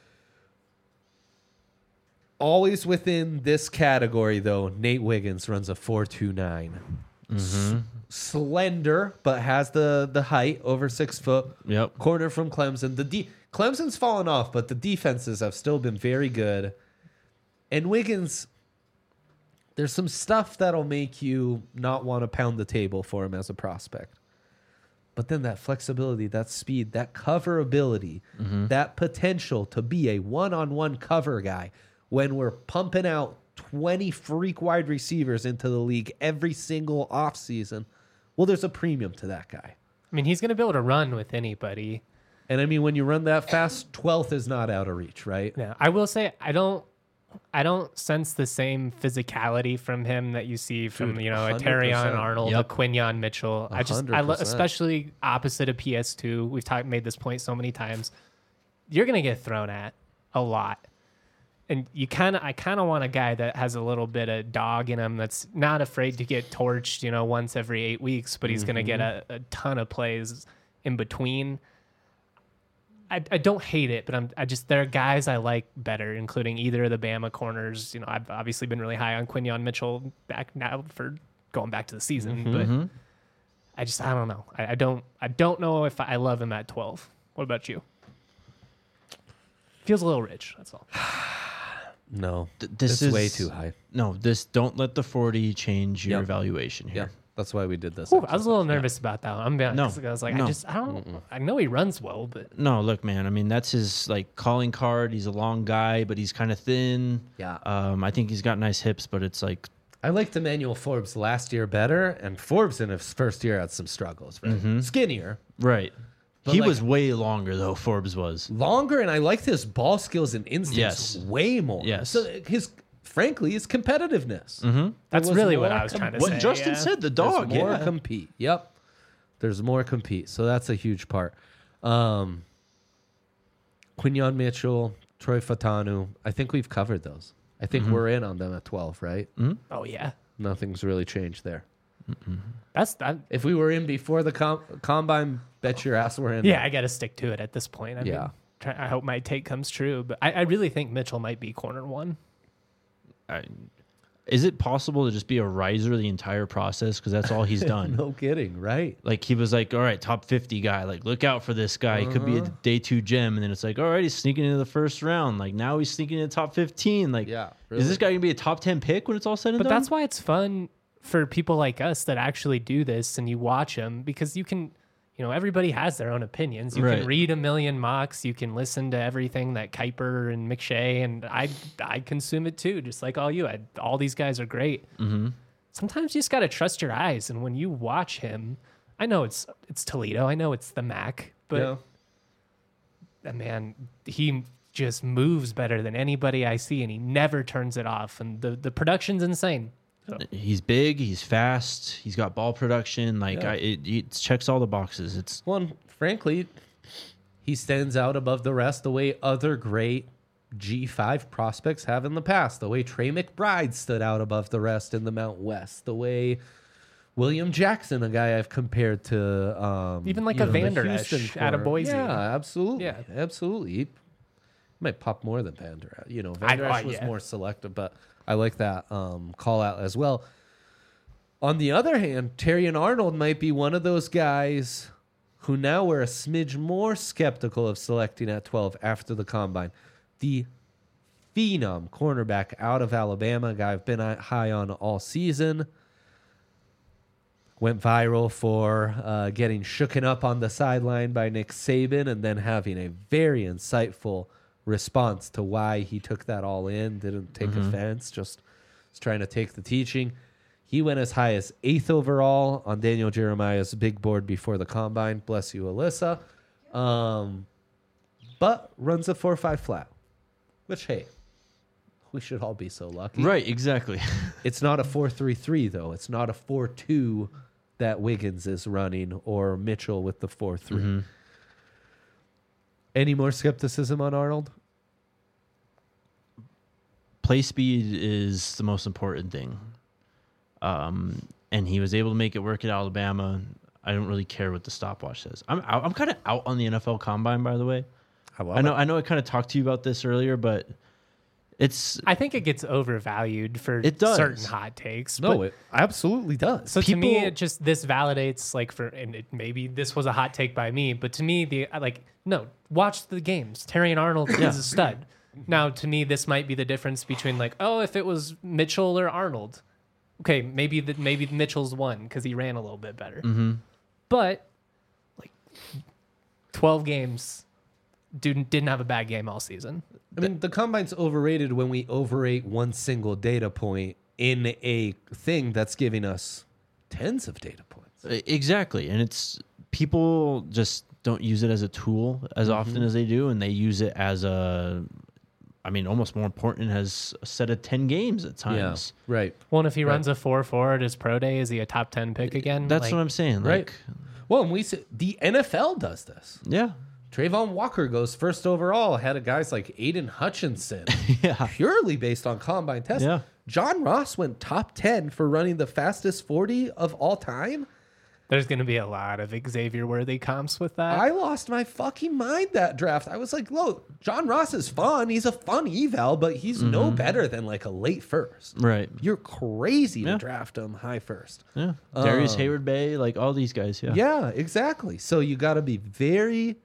Always within this category, though, Nate Wiggins runs a four two nine. S- slender, but has the, the height, over six foot. Yep. Corner from Clemson. The de- Clemson's fallen off, but the defenses have still been very good. And Wiggins, there's some stuff that'll make you not want to pound the table for him as a prospect. But then that flexibility, that speed, that cover ability, that potential to be a one-on-one cover guy when we're pumping out twenty freak wide receivers into the league every single offseason, well, there's a premium to that guy. I mean, he's going to be able to run with anybody. And I mean, when you run that fast, twelfth is not out of reach, right? Yeah, I will say I don't. I don't sense the same physicality from him that you see from Dude, you know a one hundred Terrion percent. Arnold, Yep. a Quinyon Mitchell. I just I lo- one hundred percent. especially opposite of P S two. We've talked made this point so many times. You're gonna get thrown at a lot, and you kind of I kind of want a guy that has a little bit of dog in him, that's not afraid to get torched, you know, once every eight weeks, but he's gonna get a, a ton of plays in between. I, I don't hate it, but I'm I just there are guys I like better, including either of the Bama corners. You know, I've obviously been really high on Quinyon Mitchell back now for going back to the season, but I just I don't know. I, I don't I don't know if I love him at twelve. What about you? Feels a little rich. That's all. No, Th- this it's is way too high. No, this don't let the forty change your Yep. evaluation Yeah, here. that's why we did this. Ooh, I was a little nervous about that one. I'm being No, honest. I was like, no. I just I don't. I know he runs well, but No, look, man. I mean, that's his like calling card. He's a long guy, but he's kind of thin. Yeah. Um, I think he's got nice hips, but it's like I liked Emmanuel Forbes last year better, and Forbes in his first year had some struggles. Right? Skinnier, right. But, he like- was way longer though. Forbes was. longer, and I liked his ball skills and instincts Yes. way more. Yes. So his, frankly, his competitiveness. that's was really what more I was com- trying to What say. Justin yeah. said, the There's dog. more Yeah. compete. Yep. There's more compete. So that's a huge part. Um, Quinyon Mitchell, Troy Fatanu. I think we've covered those. I think we're in on them at twelve, right? Oh yeah, Nothing's really changed there. that's that. If we were in before the com- combine, bet your ass we're in. Yeah, I got to stick to it at this point. I Yeah. mean, try, I hope my take comes true, but I, I really think Mitchell might be corner one. I, is it possible to just be a riser the entire process? Because that's all he's done. No kidding, right? Like he was like, all right, top fifty guy. Like look out for this guy. He could be a Uh-huh. day two gem. And then it's like, all right, he's sneaking into the first round. Like now he's sneaking into top fifteen. Like, Yeah, is this really. guy gonna be a top ten pick when it's all said and But done? that's why it's fun for people like us that actually do this and you watch them, because you can, you know, everybody has their own opinions. You Right. can read a million mocks. You can listen to everything that Kuiper and McShay, and I I consume it too, just like all you. I, all these guys are great. Mm-hmm. Sometimes you just got to trust your eyes, and when you watch him, I know it's it's Toledo. I know it's the Mac, but Yeah. uh, man, he just moves better than anybody I see, and he never turns it off. And the the production's insane. So, He's big. He's fast. He's got ball production. Like Yeah. I, it, it checks all the boxes. It's Well, and frankly, he stands out above the rest the way other great G five prospects have in the past, the way Trey McBride stood out above the rest in the Mount West, the way William Jackson, a guy I've compared to, um, Even like you a know, the Vander Houston Esch out of core. Boise. Yeah, absolutely. Yeah. Absolutely. He might pop more than Vander Esch. You know, I- Vander Esch oh, was yeah. more selective, but I like that um, call out as well. On the other hand, Terrion Arnold might be one of those guys who now we're a smidge more skeptical of selecting at twelve after the combine. The phenom cornerback out of Alabama, a guy I've been high on all season, went viral for uh, getting shooken up on the sideline by Nick Saban and then having a very insightful response to why he took that all in, didn't take mm-hmm. offense, just was trying to take the teaching. He went as high as eighth overall on Daniel Jeremiah's big board before the combine. Bless you, Alyssa. Um, but runs a four five flat, which, hey, we should all be so lucky. Right, exactly. It's not a four three three, though. It's not a four two that Wiggins is running or Mitchell with the four three. Mm-hmm. Any more skepticism on Arnold? Play speed is the most important thing. Um, and he was able to make it work at Alabama. I don't really care what the stopwatch says. I'm out, I'm kind of out on the N F L Combine, by the way. I, love I know it. I know I kind of talked to you about this earlier, but it's I think it gets overvalued for It does. certain hot takes. No, but- it absolutely does. So to me, People- it just this validates like for and it, maybe this was a hot take by me, but to me, the like no, watch the games. Terrion Arnold is a stud. Now, to me, this might be the difference between like, oh, if it was Mitchell or Arnold, okay, maybe the, maybe Mitchell's won because he ran a little bit better. Mm-hmm. But like twelve games, dude didn't have a bad game all season. I mean, the combine's overrated when we overrate one single data point in a thing that's giving us tens of data points. Exactly. And it's people just don't use it as a tool as Mm-hmm. often as they do, and they use it as a I mean, almost more important as a set of ten games at times. Yeah, right. Well, and if he Right. runs a four four at his pro day, is he a top ten pick again? That's Like, what I'm saying. Like, Right. Well, and we say, the N F L does this. Yeah. Trayvon Walker goes first overall ahead of guys like Aiden Hutchinson, Yeah. purely based on combine tests. Yeah. John Ross went top ten for running the fastest forty of all time. There's going to be a lot of Xavier Worthy comps with that. I lost my fucking mind that draft. I was like, look, John Ross is fun. He's a fun eval, but he's no better than like a late first. Right. You're crazy Yeah. to draft him high first. Yeah. Darius Um, Hayward Bay, like all these guys. Yeah. Yeah, exactly. So you got to be very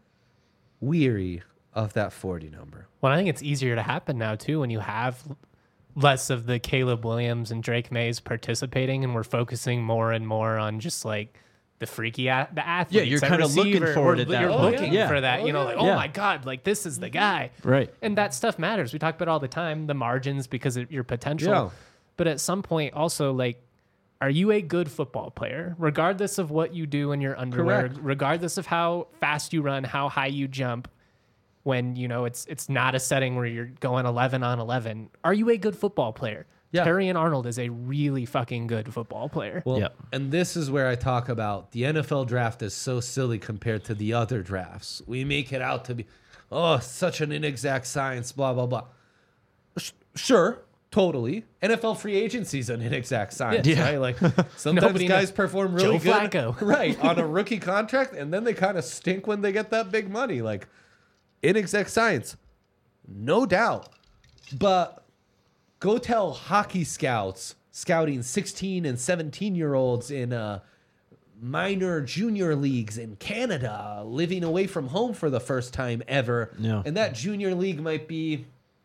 weary of that forty number. Well, I think it's easier to happen now too when you have less of the Caleb Williams and Drake Mays participating, and we're focusing more and more on just like the freaky a- the athletes. Yeah, you're at kinda looking receiver. forward We're- at that You're point. looking Yeah. for that. Oh, you know, yeah. like oh Yeah. my god, like this is the guy. Right. And that stuff matters. We talk about all the time the margins because of your potential. Yeah. But at some point, also like. Are you a good football player, regardless of what you do in your underwear, Correct. regardless of how fast you run, how high you jump? When you know it's it's not a setting where you're going eleven on eleven. Are you a good football player? Yeah. Terrion Arnold is a really fucking good football player. Well, Yeah. and this is where I talk about the N F L draft is so silly compared to the other drafts. We make it out to be, oh, such an inexact science, blah, blah, blah. Sh- sure, totally. N F L free agency is an inexact science, Yeah. right? Like sometimes Nobody guys knows. perform really Joe good, Flacco. right, on a rookie contract, and then they kind of stink when they get that big money. Like inexact science, no doubt. But go tell hockey scouts scouting sixteen and seventeen year olds in uh, minor junior leagues in Canada, living away from home for the first time ever. Yeah. And that junior league might be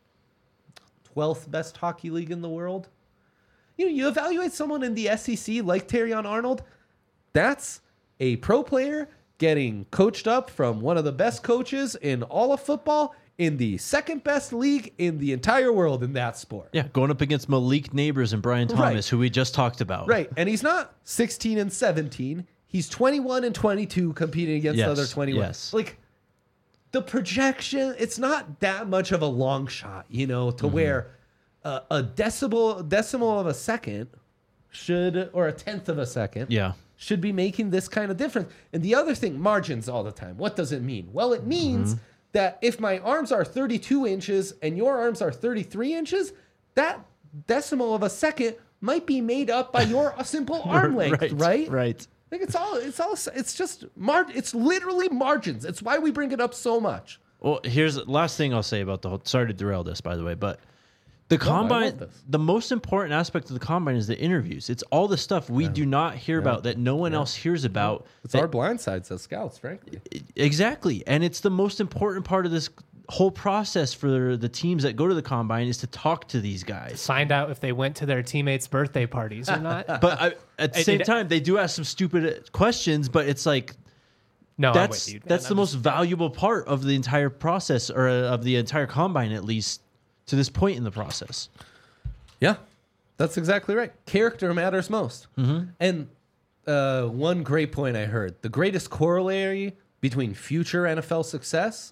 twelfth best hockey league in the world. You know, you evaluate someone in the S E C like Terrion Arnold, that's a pro player getting coached up from one of the best coaches in all of football in the second best league in the entire world in that sport. Yeah. Going up against Malik Neighbors and Brian Thomas, Right. who we just talked about. Right. And he's not sixteen and seventeen. He's twenty-one and twenty-two competing against Yes, the other twenty-one. yes. Like the projection, it's not that much of a long shot, you know, to Mm-hmm. where uh, a decimal decimal of a second should, or a tenth of a second, Yeah. should be making this kind of difference. And the other thing, margins all the time. What does it mean? Well, it means mm-hmm. that if my arms are thirty-two inches and your arms are thirty-three inches, that decimal of a second might be made up by your simple arm length, right? Right. right. Like it's all, it's all, it's just mar. It's literally margins. It's why we bring it up so much. Well, here's the last thing I'll say about the whole. Sorry to derail this, by the way, but the combine, no, the most important aspect of the combine is the interviews. It's all the stuff we yeah. do not hear yeah. about that no one yeah. else hears about. It's that, our blind sides as scouts, frankly. Exactly, and it's the most important part of this whole process for the teams that go to the combine is to talk to these guys, find out if they went to their teammates' birthday parties or not. But I, at the same time, they do ask some stupid questions. But it's like, no, that's I'm with you, that's I'm the most just... valuable part of the entire process, or uh, of the entire combine, at least to this point in the process. Yeah, that's exactly right. Character matters most. Mm-hmm. And uh, one great point I heard: the greatest corollary between future N F L success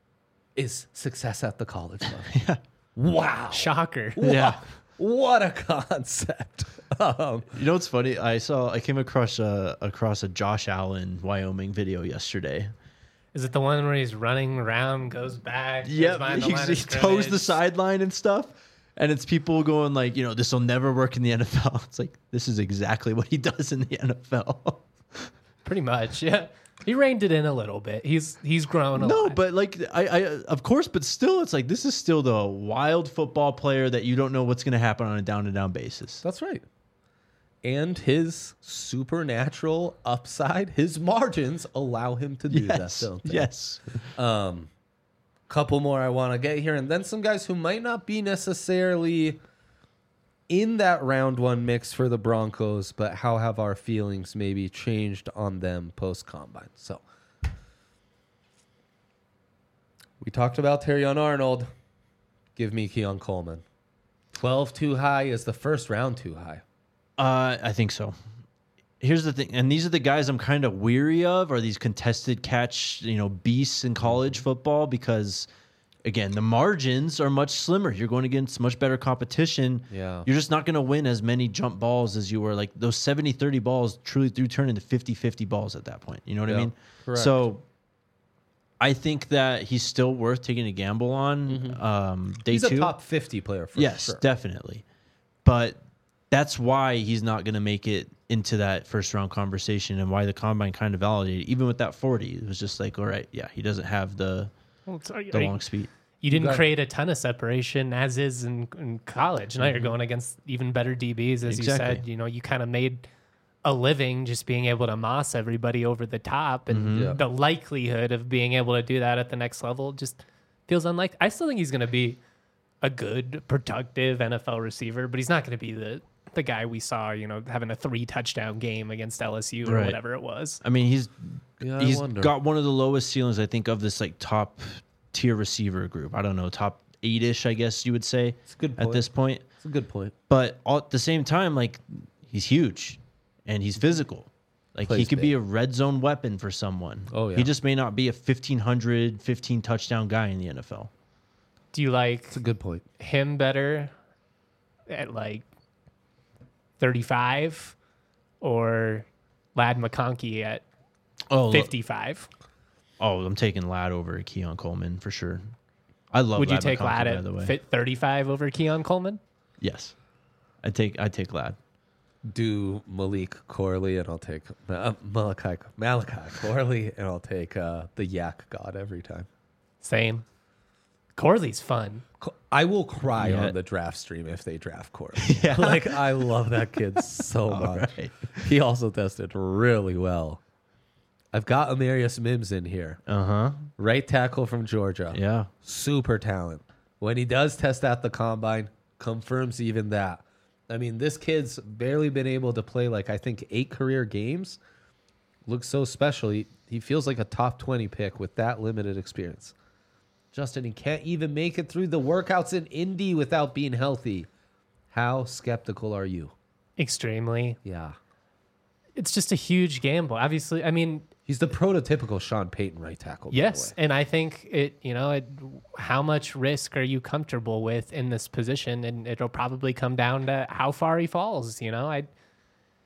is success at the college level. Yeah. Wow. Shocker. Wow. Yeah. What a concept. Um, you know what's funny? I saw I came across a across a Josh Allen Wyoming video yesterday. Is it the one where he's running around, goes back? Yeah, he, he toes the sideline and stuff. And it's people going like, you know, this will never work in the N F L. It's like, this is exactly what he does in the N F L. Pretty much, yeah. He reined it in a little bit. He's he's grown a no, lot. No, but like I, I of course, but still, it's like this is still the wild football player that you don't know what's going to happen on a down to down basis. That's right. And his supernatural upside, his margins allow him to do yes, that. Don't they? Yes. Um, couple more I want to get here, and then some guys who might not be necessarily in that round one mix for the Broncos, but how have our feelings maybe changed on them post-combine? So we talked about Terrion Arnold. Give me Keon Coleman. twelve too high. Is the first round too high? Uh, I think so. Here's the thing, and these are the guys I'm kind of weary of, are these contested catch, you know, beasts in college football, because again, the margins are much slimmer. You're going against much better competition. Yeah. You're just not going to win as many jump balls as you were. Like those seventy thirty balls truly do turn into fifty fifty balls at that point. You know what yeah, I mean? Correct. So I think that he's still worth taking a gamble on. Mm-hmm. Um, day he's two. a top fifty player for yes, sure. Yes, definitely. But that's why he's not going to make it into that first round conversation, and why the combine kind of validated. Even with that forty, it was just like, all right, yeah, he doesn't have the well, the I mean, long speed. You didn't you create a ton of separation as is in, in college. Now mm-hmm. you're going against even better D Bs, as exactly. you said. You know, you kind of made a living just being able to moss everybody over the top, and mm-hmm. yeah. the likelihood of being able to do that at the next level just feels unlikely. I still think he's going to be a good, productive N F L receiver, but he's not going to be the the guy we saw, you know, having a three touchdown game against L S U or right. whatever it was. I mean, he's yeah, he's got one of the lowest ceilings, I think, of this like top tier receiver group. I don't know, top eight-ish, I guess you would say. It's a good point. At this point. It's a good point. But all, at the same time, like, he's huge and he's physical. Like, Plays he could big. be a red zone weapon for someone. Oh, yeah. He just may not be a fifteen hundred, fifteen touchdown guy in the N F L. Do you like It's a good point. him better at like thirty-five or Lad McConkey at oh, fifty-five? Oh, I'm taking Lad over Keon Coleman for sure. I love. Would Lad you take McConkey, Lad at fit thirty-five over Keon Coleman? Yes, I take I take Lad. Do Malik Corley, and I'll take uh, Malachi Malachi Corley, and I'll take uh, the Yak God every time. Same. Corley's fun. I will cry yeah. on the draft stream if they draft Corley. yeah. Like, I love that kid so much. Right. He also tested really well. I've got Amarius Mims in here. Uh-huh. Right tackle from Georgia. Yeah. Super talent. When he does test at the combine, confirms even that. I mean, this kid's barely been able to play, like, I think, eight career games. Looks so special. He, he feels like a top twenty pick with that limited experience. Justin, he can't even make it through the workouts in Indy without being healthy. How skeptical are you? Extremely. Yeah. It's just a huge gamble. Obviously, I mean... He's the prototypical Sean Payton right tackle. Yes, and I think it, you know, it, how much risk are you comfortable with in this position? And it'll probably come down to how far he falls, you know? I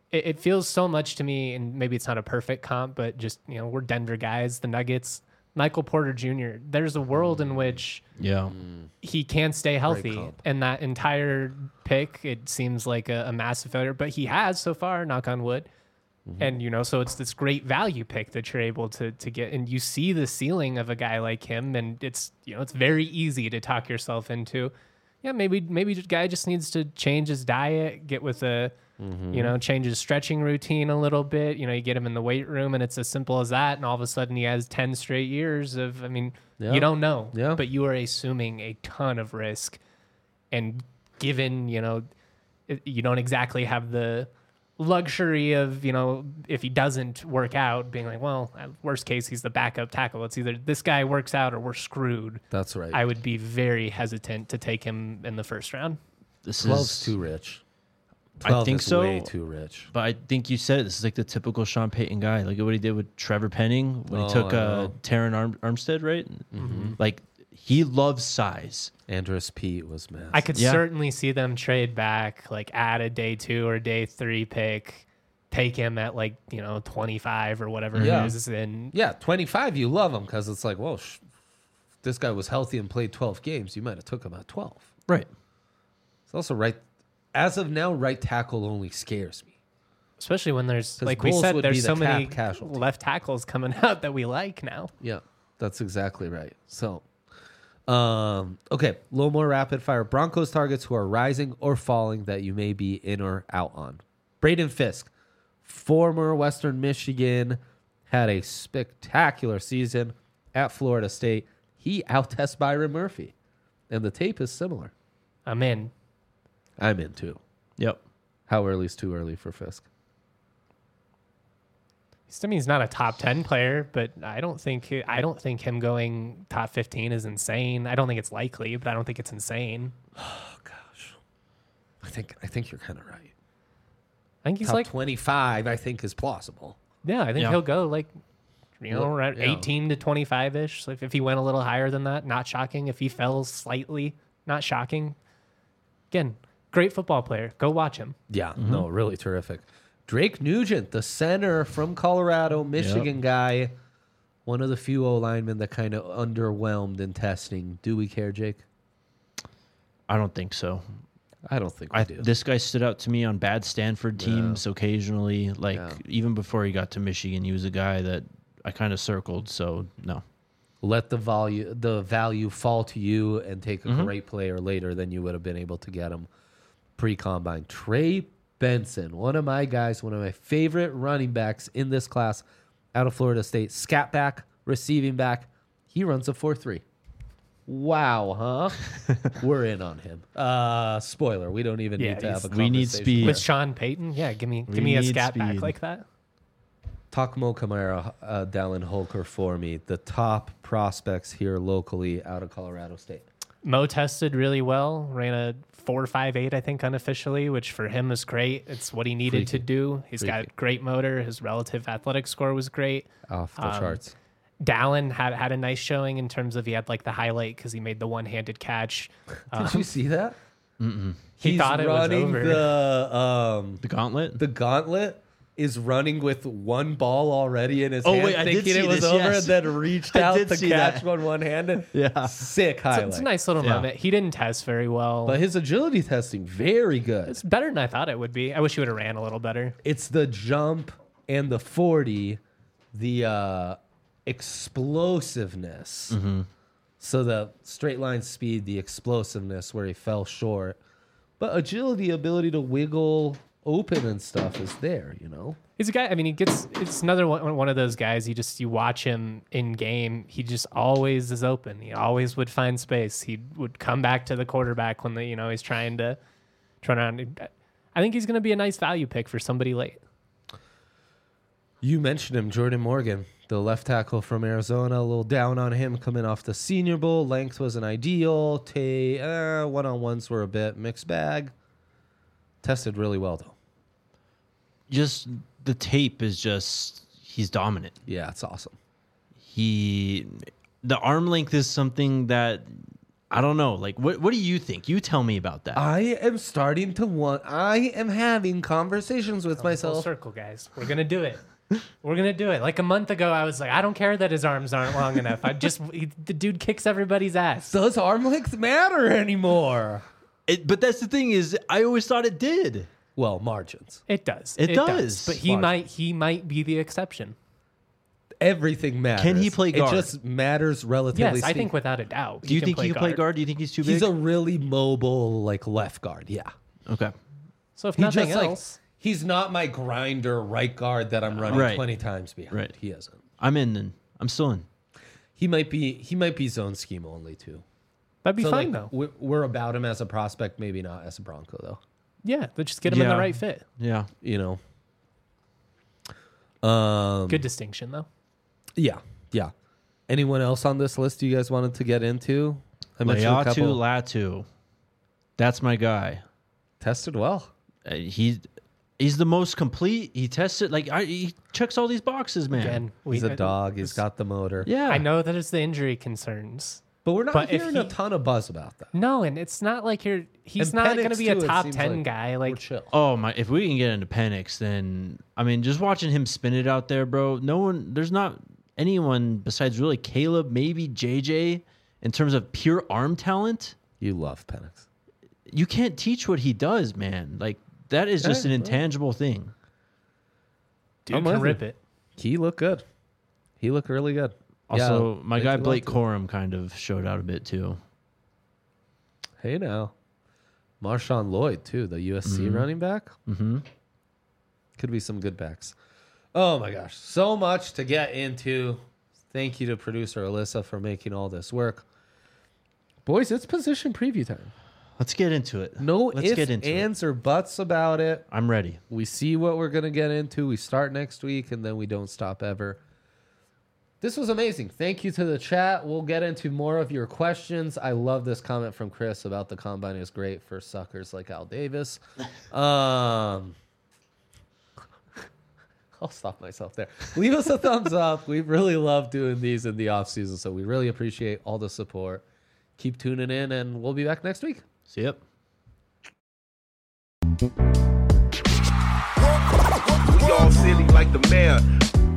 it, it feels so much to me, and maybe it's not a perfect comp, but just, you know, we're Denver guys, the Nuggets, Michael Porter Junior There's a world in which Yeah. he can stay healthy, comp. and that entire pick, it seems like a, a massive failure, but he has so far, knock on wood. And, you know, so it's this great value pick that you're able to to get. And you see the ceiling of a guy like him. And it's, you know, it's very easy to talk yourself into, yeah, maybe maybe the guy just needs to change his diet, get with a, Mm-hmm. you know, change his stretching routine a little bit. You know, you get him in the weight room and it's as simple as that. And all of a sudden he has ten straight years of, I mean, Yeah. you don't know. Yeah. But you are assuming a ton of risk. And given, you know, it- you don't exactly have the luxury of, you know, if he doesn't work out, being like, well, at worst case, he's the backup tackle. It's either this guy works out or we're screwed. That's right. I would be very hesitant to take him in the first round. This twelve's is too rich. I twelve think is so. way too rich. But I think you said it. This is like the typical Sean Payton guy. Look at what he did with Trevor Penning when Oh, he took I uh, know. Taron Arm- Armstead, right? Mm-hmm. Like, he loves size. Andrus Pete was massive. I could Yeah. certainly see them trade back, like add a day two or day three pick, take him at like, you know, twenty-five or whatever Yeah. it is. And Yeah, twenty-five, you love him because it's like, well, sh- if this guy was healthy and played twelve games, you might have took him at twelve. Right. It's also right, as of now, right tackle only scares me. especially when there's, 'Cause like we Bulls said, would be there's the so cap many casualty. left tackles coming out that we like now. Yeah, that's exactly right. So, um, okay, a little more rapid fire. Broncos targets who are rising or falling that you may be in or out on. Braden Fisk, former Western Michigan, had a spectacular season at Florida State. He outtests Byron Murphy, and the tape is similar. I'm in. I'm in too. Yep. How early is too early for Fisk? I mean, he's not a top ten player, but I don't think I don't think him going top fifteen is insane. I don't think it's likely, but I don't think it's insane. Oh gosh, I think I think you're kind of right. I think he's Top like, twenty-five, I think, is plausible. yeah, I think Yeah. he'll go like, you know, Well, around yeah. eighteen to twenty-five ish. So if, if he went a little higher than that, not shocking. If he fell slightly, not shocking. Again, great football player. Go watch him. Yeah, no, really terrific. Drake Nugent, the center from Colorado, Michigan guy, one of the few O linemen that kind of underwhelmed in testing. Do we care, Jake? I don't think so. I don't think we I, do. this guy stood out to me on bad Stanford teams occasionally. Like, Yeah. even before he got to Michigan, he was a guy that I kind of circled. So, no. Let the value the value fall to you and take a great player later than you would have been able to get him pre-combine. Trey Benson, one of my guys, one of my favorite running backs in this class out of Florida State. Scat back, receiving back. He runs a four three. Wow, huh? We're in on him. Uh, spoiler, we don't even Yeah, need to have a he's- We need conversation. speed. With Sean Payton, yeah, give me We give me a need scat back speed. like that. Takmo Kamara, uh, Dallin Holker for me. The top prospects here locally out of Colorado State. Mo tested really well, ran a four five eight, I think, unofficially, which for him is great. It's what he needed to Freaky. do. He's Freaky. got great motor. His relative athletic score was great. Off the Um, charts. Dallin had had a nice showing in terms of he had like the highlight because he made the one handed catch. Did you see that? He He's thought it was running over. the um The gauntlet? the gauntlet is running with one ball already in his Oh, hand, wait, I did thinking see it was this, over, yes. and then reached I out did to see catch that. one one handed. Yeah. Sick So highlight. it's a nice little Yeah. moment. He didn't test very well. But his agility testing very good. it's better than I thought it would be. I wish he would have ran a little better. It's the jump and the forty, the uh, explosiveness. So the straight line speed, the explosiveness where he fell short. But agility, ability to wiggle open and stuff is there, you know? He's a guy. I mean, he gets. It's another one. One of those guys. You just you watch him in game. He just always is open. He always would find space. He would come back to the quarterback when the you know he's trying to turn around. I think he's going to be a nice value pick for somebody late. You mentioned him, Jordan Morgan, the left tackle from Arizona. A little down on him coming off the Senior Bowl. Length wasn't ideal. Tay, uh, one-on-ones were a bit mixed bag. Tested really well, though. Just the tape is just, he's dominant. Yeah, it's awesome. He, the arm length is something that I don't know. Like, what what do you think? You tell me about that. I am starting to want. I am having conversations with Full myself. circle, guys. We're gonna do it. We're gonna do it. Like a month ago, I was like, I don't care that his arms aren't long enough. I just he, the dude kicks everybody's ass. Does arm length matter anymore? It, but that's the thing is, I always thought it did. Well, margins. It does. It does. But he Margin. might he might be the exception. Everything matters. Can he play guard? It just matters relatively. Yes, I speaking. think without a doubt. Do you can think play he can play guard? Do you think he's too big? He's a really mobile, like left guard. Yeah. okay. So if He nothing just like else, he's not my grinder right guard that I'm running Right. twenty times behind. Right. He isn't. I'm in. Then I'm still in. He might be. He might be zone scheme only too. that'd be So fine like though. we're, we're about him as a prospect, maybe not as a Bronco though. Yeah, but just get him in Yeah. the right fit. Yeah. You know. Um. Good distinction though. Yeah. Yeah. Anyone else on this list you guys wanted to get into? I mentioned a Laiatu couple. Latu. That's my guy. Tested well. Uh, he he's the most complete. He tested like I, he checks all these boxes, man. Again, we, He's a dog. He's got the motor. Yeah. I know that it's the injury concerns. But we're not But if hearing a he- ton of buzz about that. No, and it's not like you're. He's And not Penix, going to be a too, it top seems ten like guy. We're Like chill. Oh my! If we can get into Penix, then I mean, just watching him spin it out there, bro. No one, there's not anyone besides really Caleb, maybe J J, in terms of pure arm talent. You love Penix. You can't teach what he does, man. Like that is just Yeah, an well. intangible thing. dude I'm can with rip you. it. He looked good. He looked really good. Also, Yeah, my thank guy you, Blake Latu. Corum kind of showed out a bit too. Hey now. Marshawn Lloyd, too, the U S C running back. Mm-hmm. Could be some good backs. Oh my gosh. So much to get into. Thank you to producer Alyssa for making all this work. Boys, it's position preview time. Let's get into it. No Let's ifs, get into it. ands, or buts about it. I'm ready. We see what we're going to get into. We start next week, and then we don't stop ever. This was amazing. Thank you to the chat. We'll get into more of your questions. I love this comment from Chris about the combine is great for suckers like Al Davis. Um, I'll stop myself there. Leave us a thumbs up. We really love doing these in the off season, so we really appreciate all the support. Keep tuning in, and we'll be back next week. See ya. We all silly like the mayor.